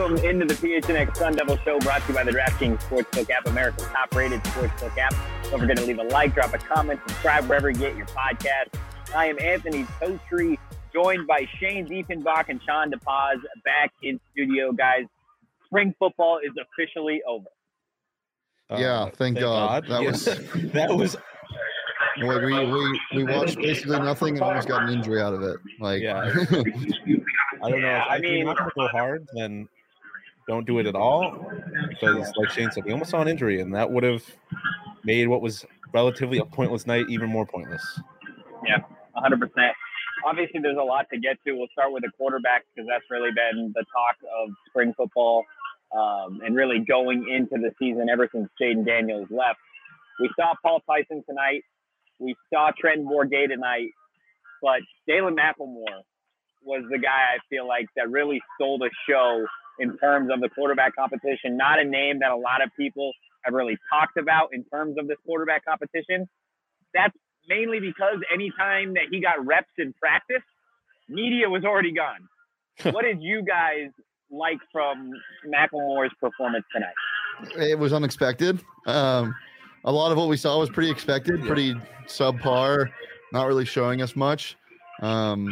Welcome into the PHNX Sun Devil Show, brought to you by the DraftKings Sportsbook app, America's top-rated sportsbook app. Don't forget to leave a like, drop a comment, subscribe wherever you get your podcast. I am Anthony Totri, joined by Shane Diefenbach and Sean DePaz, back in studio, guys. Spring football is officially over. Yeah, thank God. That was like we watched basically nothing and almost got an injury out of it. Like, yeah. I don't know. If you're not going to go hard, then don't do it at all. Because, like Shane said, we almost saw an injury, and that would have made what was relatively a pointless night even more pointless. Yeah, 100%. Obviously, there's a lot to get to. We'll start with the quarterback because that's really been the talk of spring football and really going into the season ever since Jaden Daniels left. We saw Paul Tyson tonight. We saw Trenton Bourguet tonight. But Dalen McLemore was the guy I feel like that really stole the show in terms of the quarterback competition. Not a name that a lot of people have really talked about in terms of this quarterback competition. That's mainly because anytime that he got reps in practice, media was already gone. What did you guys like from McLemore's performance tonight? It was unexpected. A lot of what we saw was pretty expected, pretty subpar, not really showing us much. And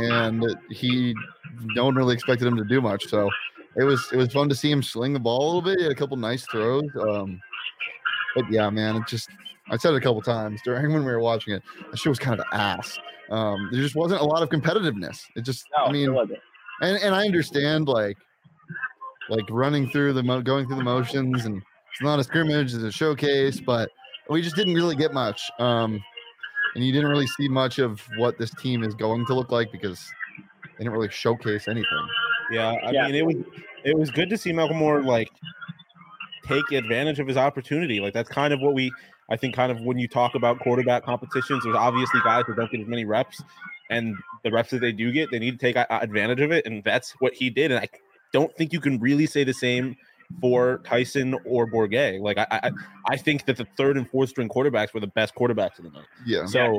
no one really expected him to do much. So it was fun to see him sling the ball a little bit. He had a couple nice throws. But yeah, man, I said it a couple times during when we were watching it. That shit was kind of ass. There just wasn't a lot of competitiveness. It just, it wasn't. And I understand like running through going through the motions, and it's not a scrimmage, it's a showcase, but we just didn't really get much. And you didn't really see much of what this team is going to look like because they didn't really showcase anything. Yeah, I mean, it was good to see McLemore like take advantage of his opportunity. Like that's kind of what I think kind of when you talk about quarterback competitions, there's obviously guys who don't get as many reps, and the reps that they do get, they need to take advantage of it, and that's what he did. And I don't think you can really say the same for Tyson or Bourguet. Like I think that the third and fourth string quarterbacks were the best quarterbacks of the night. Yeah. So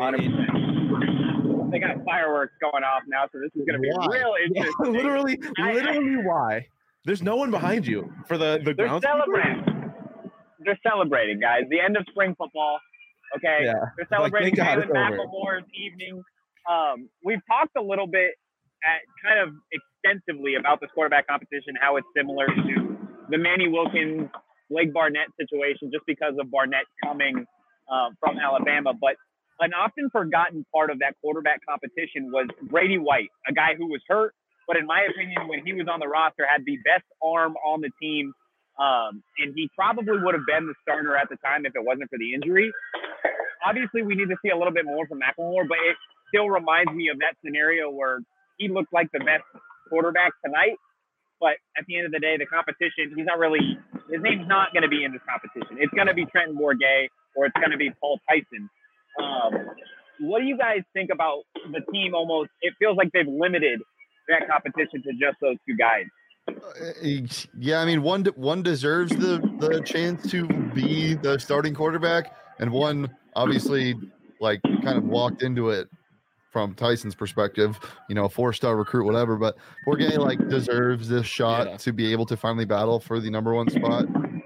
they got fireworks going off now, so this is going to be real interesting. Yeah, literally why? There's no one behind you for the ground. They're celebrating, guys. The end of spring football. Okay. Yeah. They're celebrating Dalen McLemore's evening. We've talked a little bit kind of extensively about this quarterback competition, how it's similar to the Manny Wilkins, Blake Barnett situation, just because of Barnett coming from Alabama. But an often forgotten part of that quarterback competition was Brady White, a guy who was hurt, but in my opinion, when he was on the roster, had the best arm on the team. And he probably would have been the starter at the time if it wasn't for the injury. Obviously, we need to see a little bit more from McLemore, but it still reminds me of that scenario where he looked like the best quarterback tonight. But at the end of the day, the competition, his name's not going to be in this competition. It's going to be Trenton Bourguet or it's going to be Paul Tyson. What do you guys think about the team almost? It feels like they've limited that competition to just those two guys. Yeah, I mean, one deserves the chance to be the starting quarterback, and one obviously like kind of walked into it from Tyson's perspective, a 4-star recruit, whatever. But Bourguet like deserves this shot to be able to finally battle for the number one spot.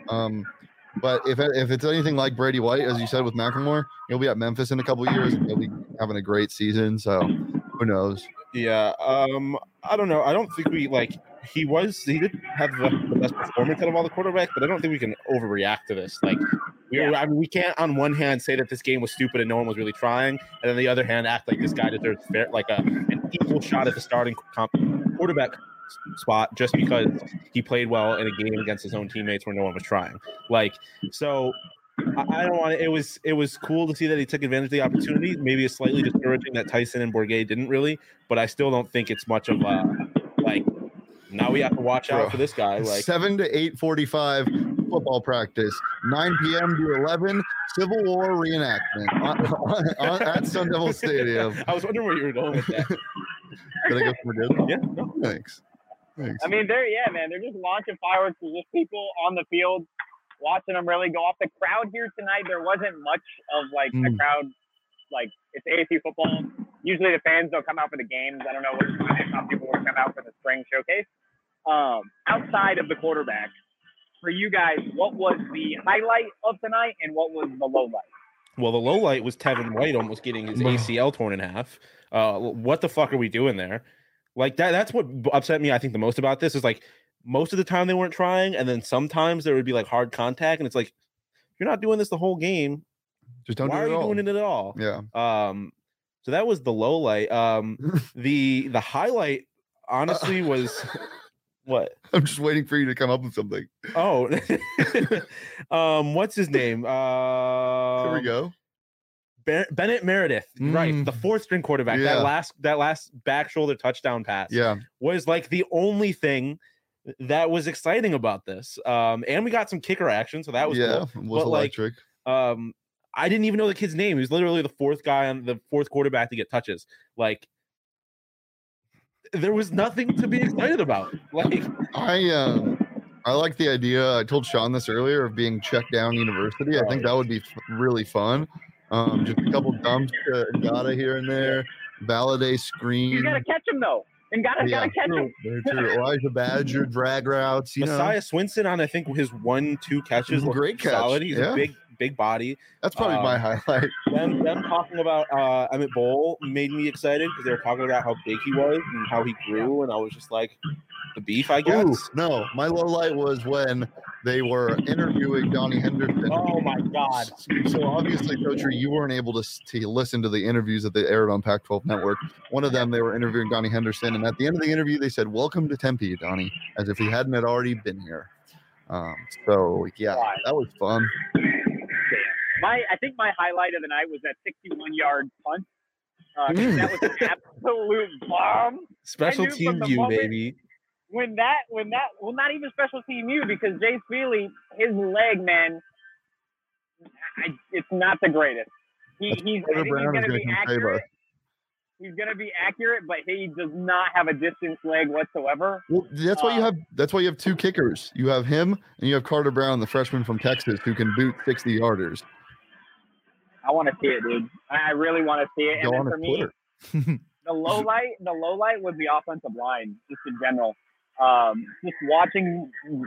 But if it's anything like Brady White, as you said with McLemore, he'll be at Memphis in a couple of years and he'll be having a great season. So who knows? Yeah, I don't know. I don't think he did have the best performance out of all the quarterbacks, but I don't think we can overreact to this. Like, we can't on one hand say that this game was stupid and no one was really trying, and on the other hand act like this guy deserves an equal shot at the starting quarterback spot just because he played well in a game against his own teammates where no one was trying. Like, so I don't want to. It was cool to see that he took advantage of the opportunity. Maybe it's slightly discouraging that Tyson and Bourguet didn't really, but I still don't think it's much of now we have to watch out for this guy. Like 7 to 8:45 football practice, 9 p.m. to 11 Civil War reenactment at Sun Devil Stadium. I was wondering where you were going with that. Did I go for good? Yeah. No. Thanks. I mean, they're just launching fireworks. There's just people on the field watching them really go off. The crowd here tonight, there wasn't much of a crowd. Like, it's ASU football. Usually the fans don't come out for the games. I don't know what some people will come out for the spring showcase. outside of the quarterback, for you guys, what was the highlight of tonight and what was the low light? Well, the low light was Tevin White almost getting his ACL torn in half. What the fuck are we doing there? Like that's what upset me, I think, the most about this is like most of the time they weren't trying, and then sometimes there would be like hard contact, and it's like, if you're not doing this the whole game, just don't. Why are you doing it at all? Yeah. So that was the low light. The highlight, honestly, was what? I'm just waiting for you to come up with something. Oh, what's his name? Here we go. Bennett Meredith, right? The fourth string quarterback. Yeah. That last back shoulder touchdown pass. Yeah, was like the only thing that was exciting about this. And we got some kicker action, so that was cool. It was electric. Like, I didn't even know the kid's name. He was literally the fourth quarterback to get touches. Like, there was nothing to be excited about. Like, I like the idea. I told Sean this earlier of being check down university. I think that would be really fun. Just a couple dumps to Ngata here and there. Validate screen. You gotta catch him though. Ngata's gotta catch him. Very true. Elijah Badger drag routes. Messiah Swinson on I think his 1-2 catches. Great catch. Solid. He's a big body. That's probably my highlight. Them talking about Emmett Bowl made me excited because they were talking about how big he was and how he grew, and I was just like, the beef, I guess. Ooh, no, my low light was when they were interviewing Donnie Henderson. Oh my God! So obviously, Coacher, you weren't able to listen to the interviews that they aired on Pac-12 Network. One of them, they were interviewing Donnie Henderson, and at the end of the interview, they said, "Welcome to Tempe, Donnie," as if he hadn't already been here. So yeah, that was fun. I think my highlight of the night was that 61-yard punt. That was an absolute bomb. Special team view, baby. When not even special team you, because Jay Feely, his leg, man, it's not the greatest. He's going to be accurate. He's going to be accurate, but he does not have a distance leg whatsoever. Well, that's why you have. That's why you have two kickers. You have him, and you have Carter Brown, the freshman from Texas, who can boot 60-yarders. I want to see it, dude. I really want to see it. And then for me, the low light was the offensive line, just in general. Just watching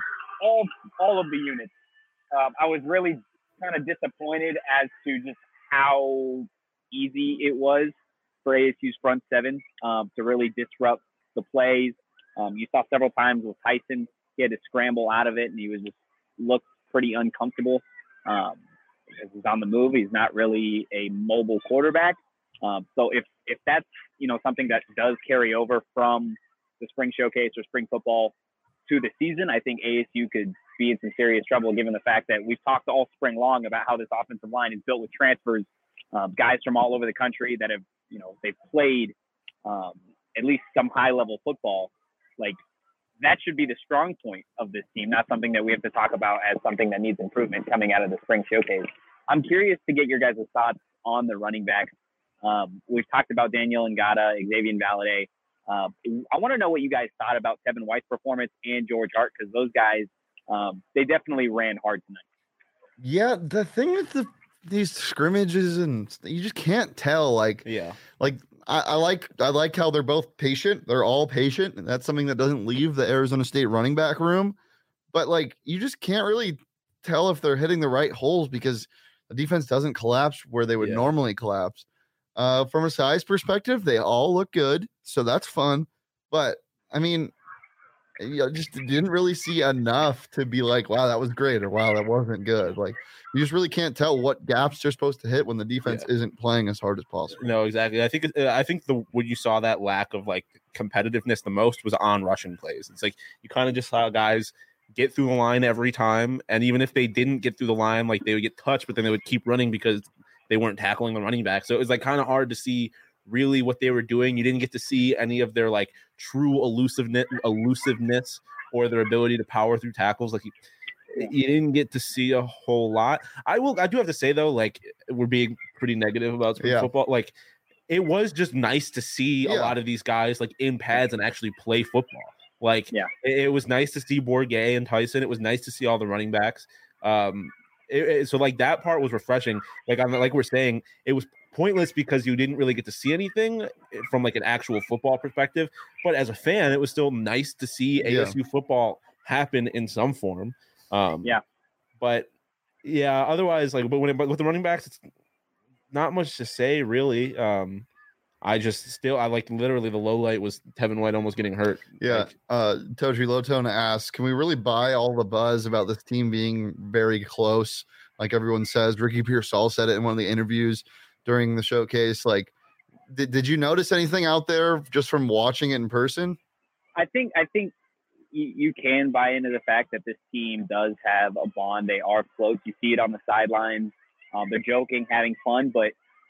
all of the units, I was really kind of disappointed as to just how easy it was for ASU's front seven to really disrupt the plays. You saw several times with Tyson, he had to scramble out of it, and he was just looked pretty uncomfortable. Because he's on the move, he's not really a mobile quarterback. So if that's something that does carry over from the spring showcase or spring football to the season, I think ASU could be in some serious trouble, given the fact that we've talked all spring long about how this offensive line is built with transfers, guys from all over the country that have, they've played at least some high level football. Like, that should be the strong point of this team, not something that we have to talk about as something that needs improvement coming out of the spring showcase. I'm curious to get your guys' thoughts on the running backs. We've talked about Daniel Ngata, Xavier Valade. I want to know what you guys thought about Tevin White's performance and George Hart, because those guys, they definitely ran hard tonight. Yeah, the thing with these scrimmages, and you just can't tell. I like how they're both patient. They're all patient, and that's something that doesn't leave the Arizona State running back room. But you just can't really tell if they're hitting the right holes because the defense doesn't collapse where they would normally collapse. From a size perspective, they all look good, so that's fun. But I mean, just didn't really see enough to be like, wow, that was great, or wow, that wasn't good. You just really can't tell what gaps they're supposed to hit when the defense isn't playing as hard as possible. No, exactly. I think when you saw that lack of competitiveness the most was on rushing plays. It's you kind of just saw guys get through the line every time, and even if they didn't get through the line, they would get touched, but then they would keep running because they weren't tackling the running back. So it was kind of hard to see really what they were doing. You didn't get to see any of their true elusiveness or their ability to power through tackles. You didn't get to see a whole lot. I do have to say though, we're being pretty negative about spring football. It was just nice to see a lot of these guys in pads and actually play football. It was nice to see Bourguet and Tyson. It was nice to see all the running backs. So that part was refreshing. Like we're saying, it was pointless because you didn't really get to see anything from like an actual football perspective. But as a fan, it was still nice to see ASU football happen in some form. But yeah, otherwise, like, but with the running backs, it's not much to say really. I like literally the low light was Tevin White almost getting hurt. Yeah. Toji Lotone asks, can we really buy all the buzz about this team being very close? Like everyone says, Ricky Pearsall said it in one of the interviews during the showcase. Like, did you notice anything out there just from watching it in person? I think you can buy into the fact that this team does have a bond. They are close. You see it on the sidelines. They're joking, having fun, but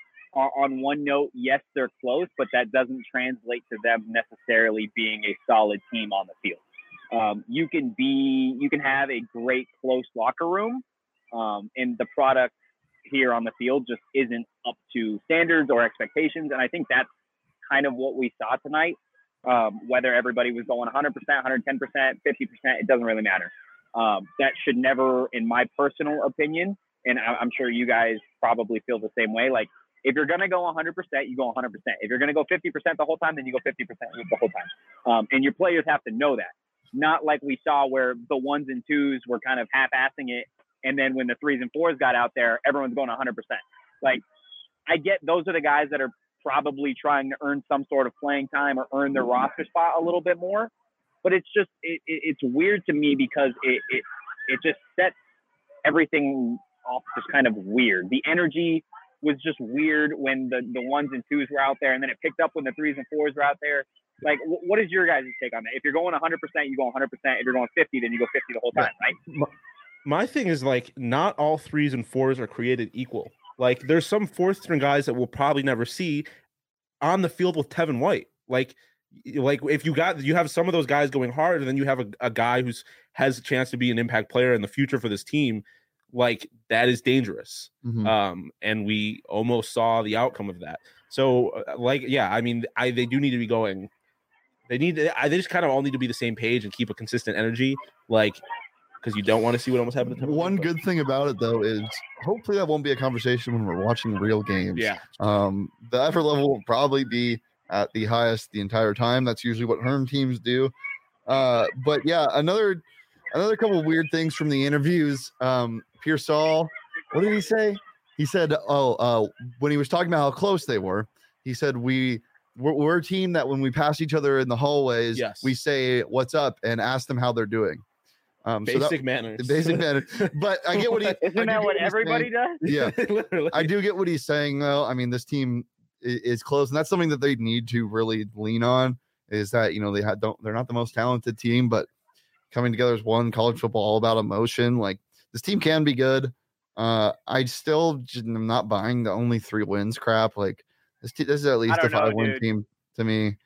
on one note, yes, they're close, but that doesn't translate to them necessarily being a solid team on the field. You can have a great close locker room, and the product here on the field just isn't up to standards or expectations. And I think that's kind of what we saw tonight. Whether everybody was going 100%, 110%, 50%, it doesn't really matter. That should never, in my personal opinion, and I'm sure you guys probably feel the same way, like, if you're going to go 100%, you go 100%. If you're going to go 50% the whole time, then you go 50% the whole time. And your players have to know that. Not like we saw where the ones and twos were kind of half-assing it, and then when the threes and fours got out there, everyone's going 100%. Like, I get those are the guys that are probably trying to earn some sort of playing time or earn their roster spot a little bit more. But it's just it's weird to me because it just sets everything off just kind of weird. The energy was just weird when the ones and twos were out there, and then it picked up when the threes and fours were out there. Like, what is your guys' take on that? If you're going 100%, you go 100%. If you're going 50, then you go 50 the whole time, right? My thing is, like, not all threes and fours are created equal. Like, there's some fourth string guys that we'll probably never see on the field with Tevin White. Like if you have some of those guys going hard, and then you have a guy who's has a chance to be an impact player in the future for this team. Like, that is dangerous. Mm-hmm. And we almost saw the outcome of that. So, I mean, they do need to be going. They just kind of all need to be the same page and keep a consistent energy, like, because you don't want to see what almost happened to One good thing about it, though, is hopefully that won't be a conversation when we're watching real games. Yeah. The effort level will probably be at the highest the entire time. That's usually what home teams do. But yeah, another couple of weird things from the interviews. Pearsall, what did he say? He said, when he was talking about how close they were, he said, we're a team that when we pass each other in the hallways, we say, what's up, and ask them how they're doing. Basic manners. Basic manners. But I get what he isn't that what everybody does? Yeah. Literally. I do get what he's saying, though. I mean, this team is close, and that's something that they need to really lean on, is that, you know, they're not the most talented team, but coming together as one. College football all about emotion. Like, this team can be good. I still am not buying the only 3 wins crap. Like, this is at least a 5-win team to me.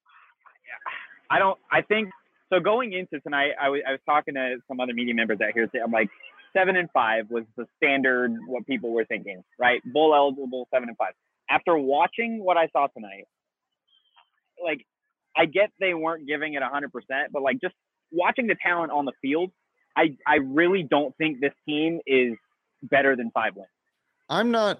I think so. Going into tonight, I was talking to some other media members out here. I'm like, 7-5 was the standard, what people were thinking, right? Bowl eligible, 7-5. After watching what I saw tonight, like, I get they weren't giving it 100%, but like, just watching the talent on the field, I really don't think this team is better than 5 wins. I'm not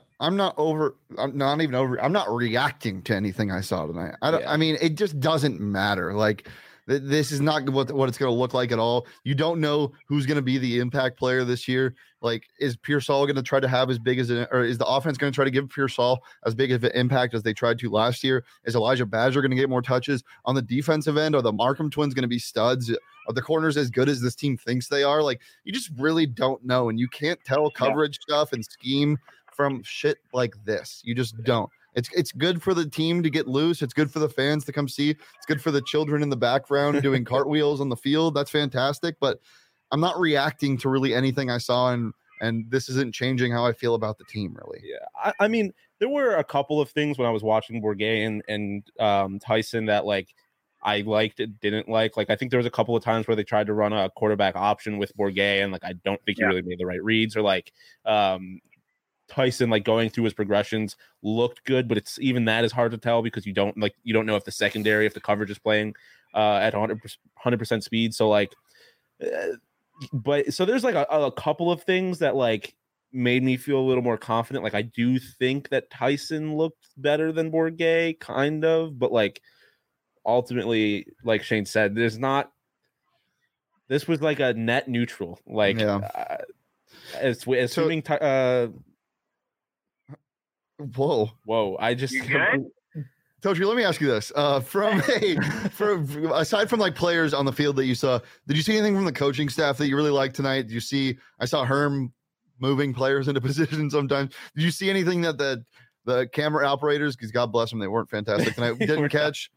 reacting to anything I saw tonight. I mean, it just doesn't matter. Like, this is not what it's going to look like at all. You don't know who's going to be the impact player this year. Like, is Pearsall going to try to have as big or is the offense going to try to give Pearsall as big of an impact as they tried to last year? Is Elijah Badger going to get more touches on the defensive end? Are the Markham twins going to be studs? Are the corners as good as this team thinks they are? Like, you just really don't know. And you can't tell coverage stuff and scheme from shit like this. You just don't. It's good for the team to get loose. It's good for the fans to come see. It's good for the children in the background doing cartwheels on the field. That's fantastic. But I'm not reacting to really anything I saw, and this isn't changing how I feel about the team, really. Yeah, I mean, there were a couple of things when I was watching Bourguet and Tyson that, like, I liked it, didn't like. Like, I think there was a couple of times where they tried to run a quarterback option with Bourguet, and, like, I don't think he really made the right reads, or, like, Tyson, like, going through his progressions looked good, but it's even that is hard to tell because you don't know if the secondary, if the coverage is playing at 100% speed. So, like, but so there's like a couple of things that, like, made me feel a little more confident. Like, I do think that Tyson looked better than Bourguet, kind of, but like ultimately, like Shane said, this was like a net neutral. Like, assuming whoa! I just Tochi, let me ask you this: aside from like players on the field that you saw, did you see anything from the coaching staff that you really liked tonight? Did you see? I saw Herm moving players into position sometimes. Did you see anything that the camera operators, because God bless them, they weren't fantastic tonight, didn't catch?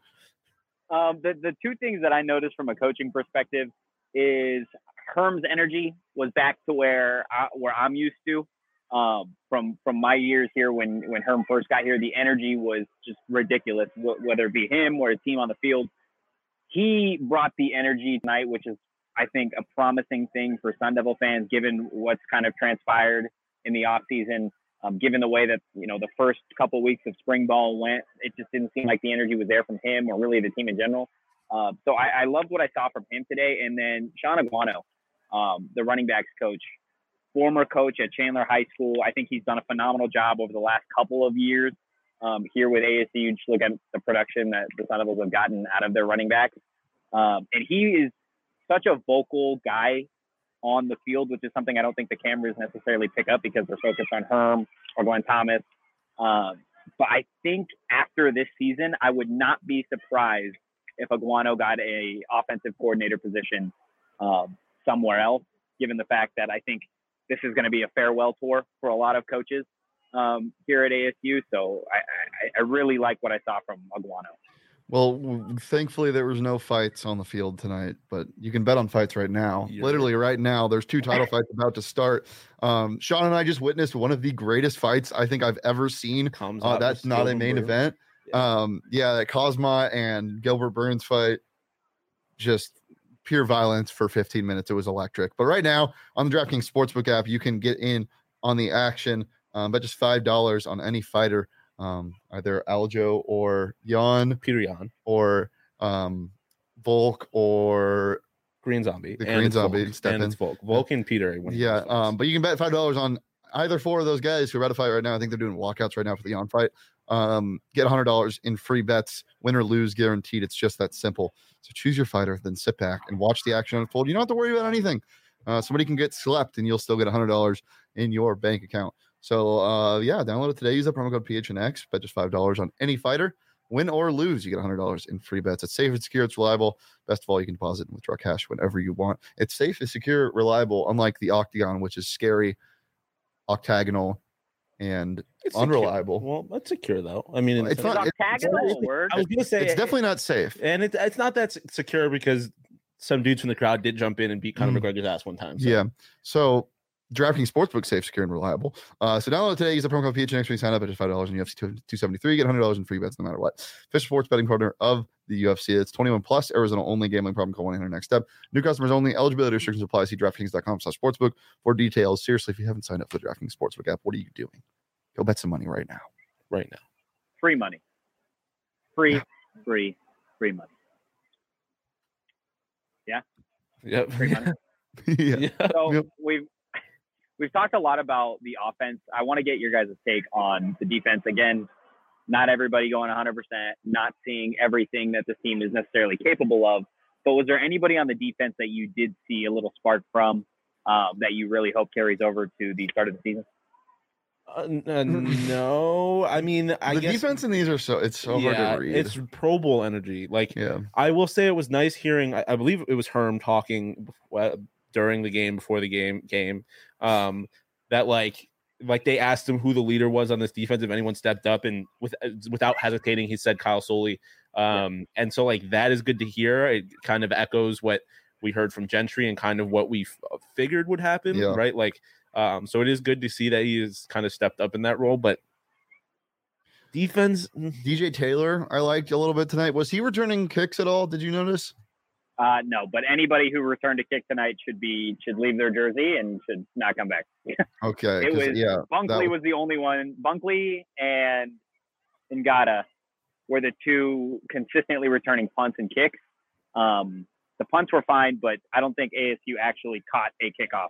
The two things that I noticed from a coaching perspective is Herm's energy was back to where I'm used to. From my years here when Herm first got here, the energy was just ridiculous, whether it be him or his team on the field. He brought the energy tonight, which is, I think, a promising thing for Sun Devil fans, given what's kind of transpired in the offseason. Given the way that, the first couple of weeks of spring ball went, it just didn't seem like the energy was there from him or really the team in general. So I loved what I saw from him today. And then Sean Aguano, the running backs coach, former coach at Chandler High School. I think he's done a phenomenal job over the last couple of years here with ASU. Just look at the production that the Sun Devils have gotten out of their running backs. And he is such a vocal guy on the field, which is something I don't think the cameras necessarily pick up because they're focused on Herm or Glenn Thomas. But I think after this season, I would not be surprised if Aguano got a offensive coordinator position somewhere else, given the fact that I think this is going to be a farewell tour for a lot of coaches here at ASU. So I really like what I saw from Aguano. Well, thankfully there was no fights on the field tonight, but you can bet on fights right now. Yeah. Literally right now, there's 2 title fights about to start. Sean and I just witnessed one of the greatest fights I think I've ever seen. That's not a main event. That Cosma and Gilbert Burns fight, just pure violence for 15 minutes. It was electric. But right now on the DraftKings Sportsbook app, you can get in on the action, but just $5 on any fighter. Either Aljo or Peter Yan, or Volk or Green Zombie. The Green Zombie. It's Volk and Peter. But you can bet $5 on either 4 of those guys who are about to fight right now. I think they're doing walkouts right now for the Yan fight. Get $100 in free bets, win or lose guaranteed. It's just that simple. So choose your fighter, then sit back and watch the action unfold. You don't have to worry about anything. Somebody can get slept and you'll still get $100 in your bank account. So, download it today. Use the promo code PHNX. Bet just $5 on any fighter. Win or lose, you get $100 in free bets. It's safe, it's secure, it's reliable. Best of all, you can deposit and withdraw cash whenever you want. It's safe, it's secure, reliable, unlike the Octagon, which is scary, octagonal, and it's unreliable. Secure. Well, that's secure, though. I mean, it's not octagonal. I was going to say it's definitely not safe. And it's not that secure because some dudes from the crowd did jump in and beat Conor McGregor's ass one time. So. Yeah. So, DraftKings Sportsbook, safe, secure, and reliable. So download it today. Use the promo code PHNX when you sign up at just $5 in UFC 273. Get $100 in free bets no matter what. Fish Sports, betting partner of the UFC. It's 21 plus. Arizona only. Gambling problem? Call 1-800-NEXT STEP. New customers only. Eligibility restrictions apply. See DraftKings.com/sportsbook for details. Seriously, if you haven't signed up for the DraftKings Sportsbook app, what are you doing? Go bet some money right now. Right now. Free money. Free money. Yeah. Yep. Free money. Yeah. So We've talked a lot about the offense. I want to get your guys' take on the defense. Again, not everybody going 100%, not seeing everything that this team is necessarily capable of. But was there anybody on the defense that you did see a little spark from that you really hope carries over to the start of the season? No. I mean, the defense in these are so hard to read. It's Pro Bowl energy. I will say it was nice hearing, I believe it was Herm talking during the game, before the game, that like they asked him who the leader was on this defense, if anyone stepped up, and without hesitating, he said Kyle Soley. And so like that is good to hear. It kind of echoes what we heard from Gentry and kind of what we figured would happen, right? Like, so it is good to see that he has kind of stepped up in that role. But defense, DJ Taylor, I liked a little bit tonight. Was he returning kicks at all? Did you notice? No, but anybody who returned a kick tonight should leave their jersey and should not come back. Okay. Bunkley was the only one. Bunkley and Ngata were the 2 consistently returning punts and kicks. The punts were fine, but I don't think ASU actually caught a kickoff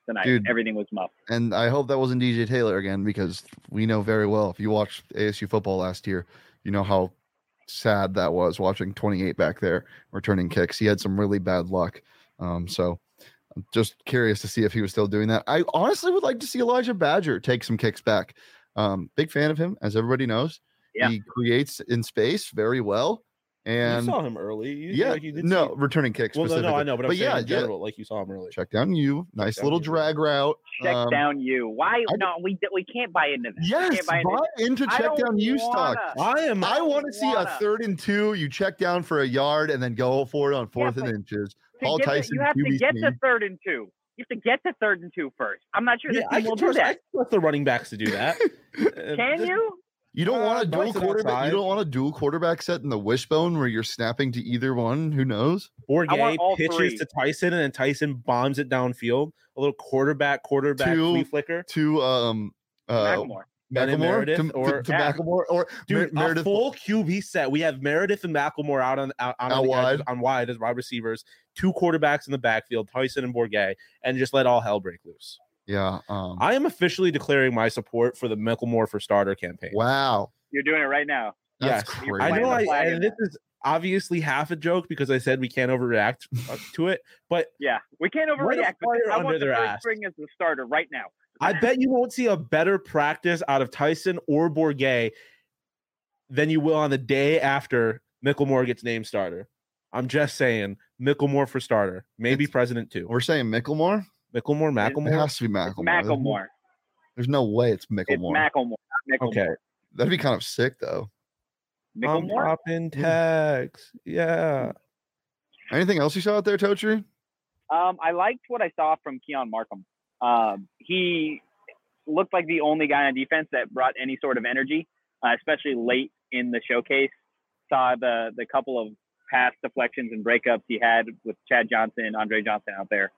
tonight. Dude, everything was muffed. And I hope that wasn't DJ Taylor again, because we know very well, if you watched ASU football last year, you know how sad that was, watching 28 back there returning kicks. He had some really bad luck. So I'm just curious to see if he was still doing that. I honestly would like to see Elijah Badger take some kicks back. Big fan of him, as everybody knows. Yeah. He creates in space very well. And you saw him early. Returning kicks. Well, no, I know, but I'm saying in general, like you saw him early. Check down you. Nice little drag route. Check down you. Why? We can't buy into this. Yes, buy into check down you stock. I want to see a 3rd and 2. You check down for a yard and then go for it on 4th and inches. Paul Tyson. You have to get to 3rd and 2. You have to get to 3rd and 2 first. I'm not sure that will do that. I trust the running backs to do that. Can you? You don't want a dual quarterback. You don't want a dual quarterback set in the wishbone where you're snapping to either one. Who knows? Bourguet pitches to Tyson, and then Tyson bombs it downfield. A little quarterback flea flicker to McLemore. Meredith to McLemore or dude, Meredith. A full QB set. We have Meredith and McLemore on wide as wide receivers. 2 quarterbacks in the backfield, Tyson and Bourguet, and just let all hell break loose. Yeah, I am officially declaring my support for the McLemore for Starter campaign. Wow, you're doing it right now. That's crazy. I know. And this is obviously half a joke because I said we can't overreact to it, but yeah, we can't overreact. I want the first string as the starter right now. I bet you won't see a better practice out of Tyson or Bourguet than you will on the day after McLemore gets named starter. I'm just saying, McLemore for starter, maybe president too. We're saying McLemore. Macklemore? It has to be Macklemore. There's no way it's Macklemore. It's Macklemore. Okay. That'd be kind of sick, though. I'm popping tags. Yeah. Anything else you saw out there, Totri? I liked what I saw from Keon Markham. He looked like the only guy on defense that brought any sort of energy, especially late in the showcase. Saw the couple of pass deflections and breakups he had with Chad Johnson, Andre Johnson out there.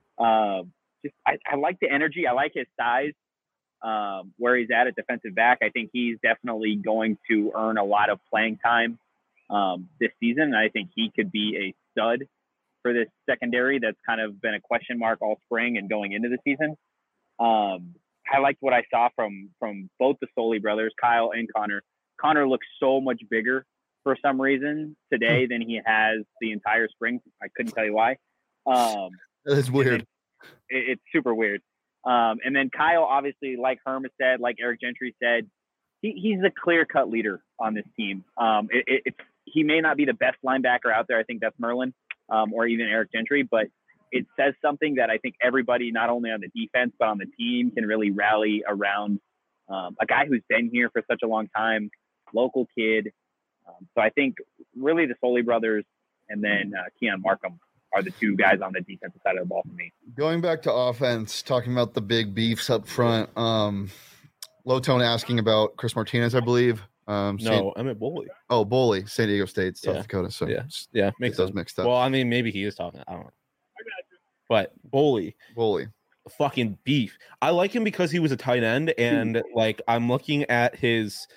I like the energy. I like his size, where he's at defensive back. I think he's definitely going to earn a lot of playing time this season. I think he could be a stud for this secondary that's kind of been a question mark all spring and going into the season. I liked what I saw from both the Soley brothers, Kyle and Connor. Connor looks so much bigger for some reason today than he has the entire spring. I couldn't tell you why. That's weird. It's super weird. And then Kyle, obviously, like Herma said, like Eric Gentry said, he's a clear-cut leader on this team. He may not be the best linebacker out there. I think that's Merlin or even Eric Gentry, but it says something that I think everybody, not only on the defense, but on the team, can really rally around a guy who's been here for such a long time, local kid. So I think really the Soley brothers and then Keon Markham are the 2 guys on the defensive side of the ball for me. Going back to offense, talking about the big beefs up front, Low Tone asking about Chris Martinez, I believe. No, I meant Boley. Oh, Boley, San Diego State, South Dakota. So yeah, makes those mixed up. Well, I mean, maybe he is talking. I don't know. But Boley, fucking beef. I like him because he was a tight end, and like I'm looking at his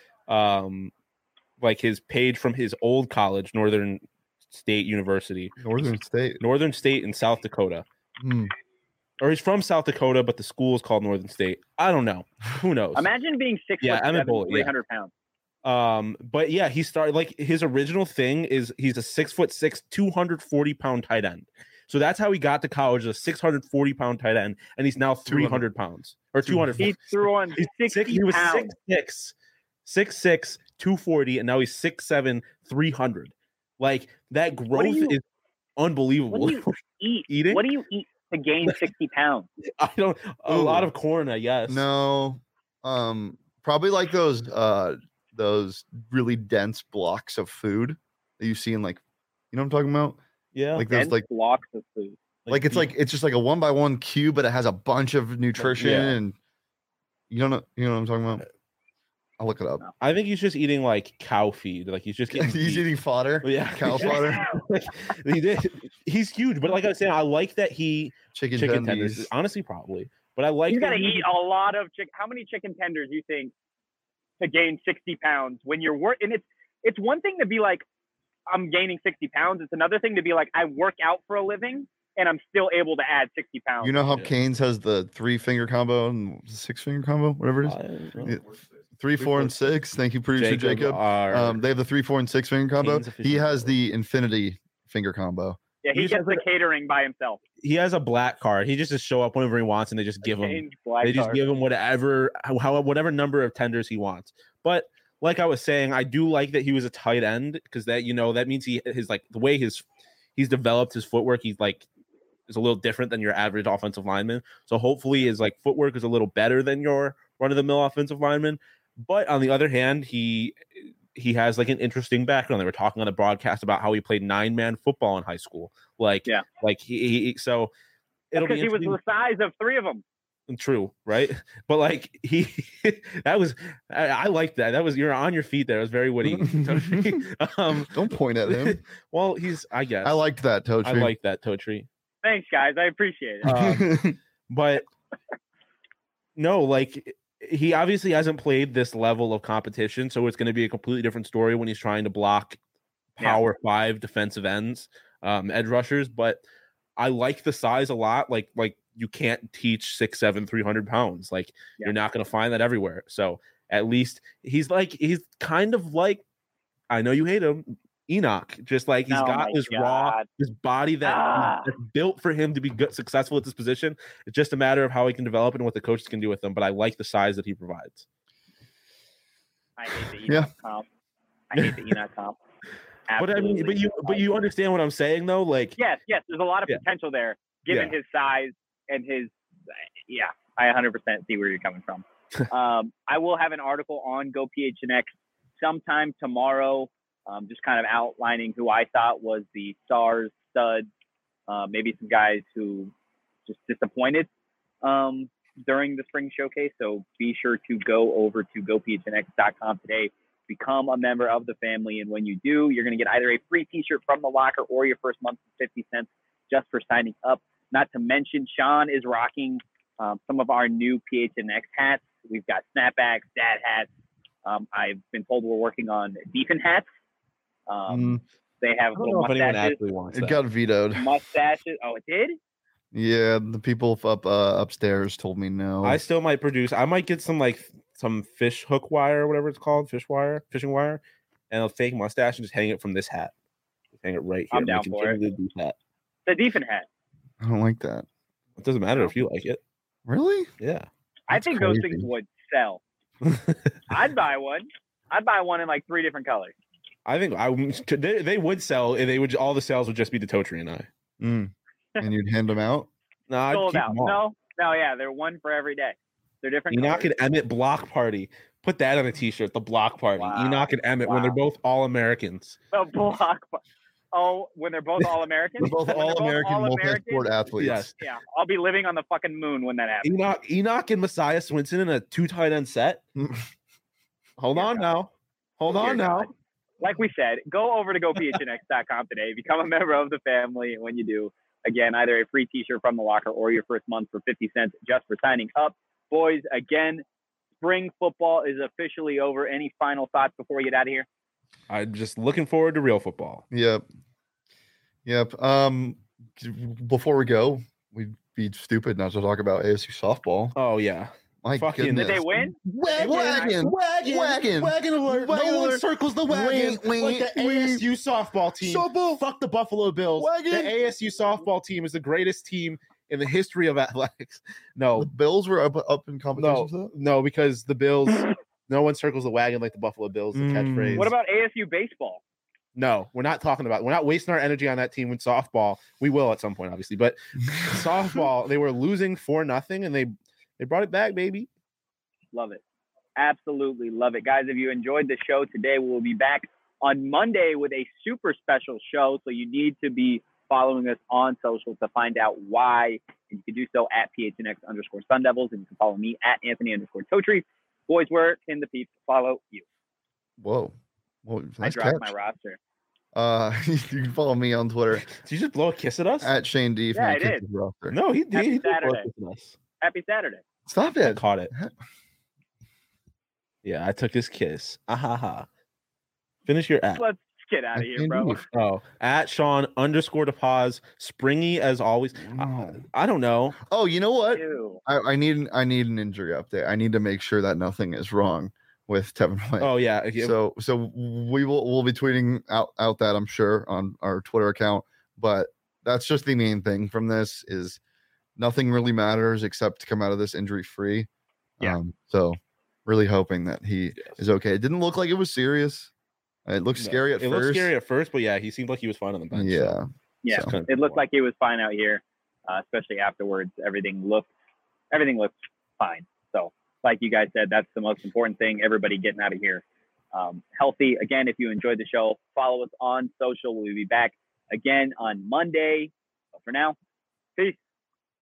his page from his old college, Northern State University. Northern State in South Dakota. Or he's from South Dakota, but the school is called Northern State. I don't know. Who knows? Imagine being 6'7", 300 pounds. But yeah, he started like his original thing is he's a 6'6", 240-pound tight end. So that's how he got to college, a 640-pound tight end, and he's now 300 pounds or 200. He threw on 60 He was pounds. 6'6", 240, and now he's 6'7", 300. Like that growth is unbelievable. What do you eat? What do you eat to gain 60 pounds? I don't. A lot of corn, I guess. No, probably like those really dense blocks of food that you see in like, you know what I'm talking about? Yeah, like those like blocks of food. Like it's just like a 1x1 cube, but it has a bunch of nutrition, and you know what I'm talking about. I'll look it up. I think he's just eating like cow feed. Like he's just getting eating fodder. Yeah, cow fodder. He's huge, but like I was saying, I like that he chicken tenders. Honestly, probably. But I like you got to eat a lot of chicken. How many chicken tenders do you think to gain 60 pounds when you're and it's one thing to be like, I'm gaining 60 pounds. It's another thing to be like, I work out for a living and I'm still able to add 60 pounds. You know how Canes has the 3-finger combo and 6-finger combo, whatever it is? 3, 4, and 6. Thank you, producer Jacob. They have the 3, 4, and 6-finger combo. He has the infinity finger combo. Yeah, he gets the catering by himself. He has a black card. He just show up whenever he wants, and they just give him. They just give him whatever number of tenders he wants. But like I was saying, I do like that he was a tight end because that means his like the way he's developed his footwork. He's like is a little different than your average offensive lineman. So hopefully his like footwork is a little better than your run of the mill offensive lineman. But on the other hand, he has like an interesting background. They were talking on the broadcast about how he played 9-man football in high school. He so it'll be because he was the size of 3 of them. True, right? But like I liked that. That was you're on your feet there. It was very witty. Don't point at him. Well, I guess I liked that Totri. I like that Totri. Thanks, guys. I appreciate it. But no, like he obviously hasn't played this level of competition, so it's going to be a completely different story when he's trying to block Power 5 defensive ends, edge rushers. But I like the size a lot. Like you can't teach 6'7", 300 pounds. Like you're not going to find that everywhere. So at least he's kind of like, I know you hate him, Enoch. Just like he's got this this body that's built for him to be successful at this position. It's just a matter of how he can develop and what the coaches can do with him. But I like the size that he provides. I hate the Enoch comp. I hate the Enoch comp. Absolutely. But you understand what I'm saying though? Like yes, there's a lot of potential there given his size and his I 100% see where you're coming from. I will have an article on Go PHNX sometime tomorrow, just kind of outlining who I thought was the stars, studs, maybe some guys who just disappointed during the spring showcase. So be sure to go over to gophnx.com today. Become a member of the family, and when you do, you're going to get either a free t-shirt from the locker or your first month for 50 cents just for signing up. Not to mention, Sean is rocking some of our new PHNX hats. We've got snapbacks, dad hats. I've been told we're working on Deacon hats. They have little mustaches. It got vetoed. Mustaches. Oh, it did? Yeah, the people up upstairs told me no. I still might produce. I might get some fish hook wire or whatever it's called, fishing wire, and a fake mustache and just hang it from this hat. Just hang it right here. I'm down for it. The Deacon hat. I don't like that. It doesn't matter if you like it. Really? Yeah. I think those things would sell. I'd buy one. I'd buy one in like 3 different colors. I think they would sell, and they would. All the sales would just be to Totri and I. And you'd hand them out? No, sold out. No, yeah, they're one for every day. They're different. Enoch and Emmett block party. Put that on a t-shirt. The block party. Wow. Enoch and Emmett when they're both All-Americans. The block. When they're both All-Americans. They're both All-American multi-sport athletes. Yes. Yeah, I'll be living on the fucking moon when that happens. Enoch and Messiah Swinson in a 2 tight end set. Hold on now. Like we said, go over to gophnx.com today. Become a member of the family. And when you do, again, either a free t-shirt from the locker or your first month for 50 cents just for signing up. Boys, again, spring football is officially over. Any final thoughts before we get out of here? I'm just looking forward to real football. Yep. Before we go, we'd be stupid not to talk about ASU softball. Oh, yeah. My goodness. Did they win? Wagon alert. No one circles the wagon like the ASU softball team. Fuck the Buffalo Bills. The ASU softball team is the greatest team in the history of athletics. No. The Bills were up in competition? No, because the Bills, no one circles the wagon like the Buffalo Bills, the catchphrase. What about ASU baseball? No, we're not wasting our energy on that team with softball. We will at some point, obviously. But softball, they were losing 4-0, and they brought it back, baby. Love it. Absolutely love it. Guys, if you enjoyed the show today, we'll be back on Monday with a super special show. So you need to be following us on social to find out why. And you can do so at PHNX_Sun Devils. And you can follow me at Anthony_Totri. Boys, where can the peeps follow you? Whoa. I dropped my roster. You can follow me on Twitter. Did you just blow a kiss at us? At Shane D. Yeah, I did. No, he did. Happy he did Saturday. Happy Saturday. Stop it. I caught it. Yeah, I took his kiss. Finish your act. Let's get out of here, bro. Oh, at Sean _DePaz, Springy as always. I don't know. Oh, you know what? I need an injury update. I need to make sure that nothing is wrong with Tevin White. Oh yeah. So we'll be tweeting out that, I'm sure, on our Twitter account. But that's just the main thing from this is nothing really matters except to come out of this injury free. Yeah. So really hoping that he is okay. It didn't look like it was serious. It looked scary at first. It looked scary at first, but yeah, he seemed like he was fine on the bench. Yeah. So. Yeah. So. It looked like he was fine out here, especially afterwards. Everything looked fine. So like you guys said, that's the most important thing. Everybody getting out of here healthy. Again, if you enjoyed the show, follow us on social. We'll be back again on Monday. But for now, peace.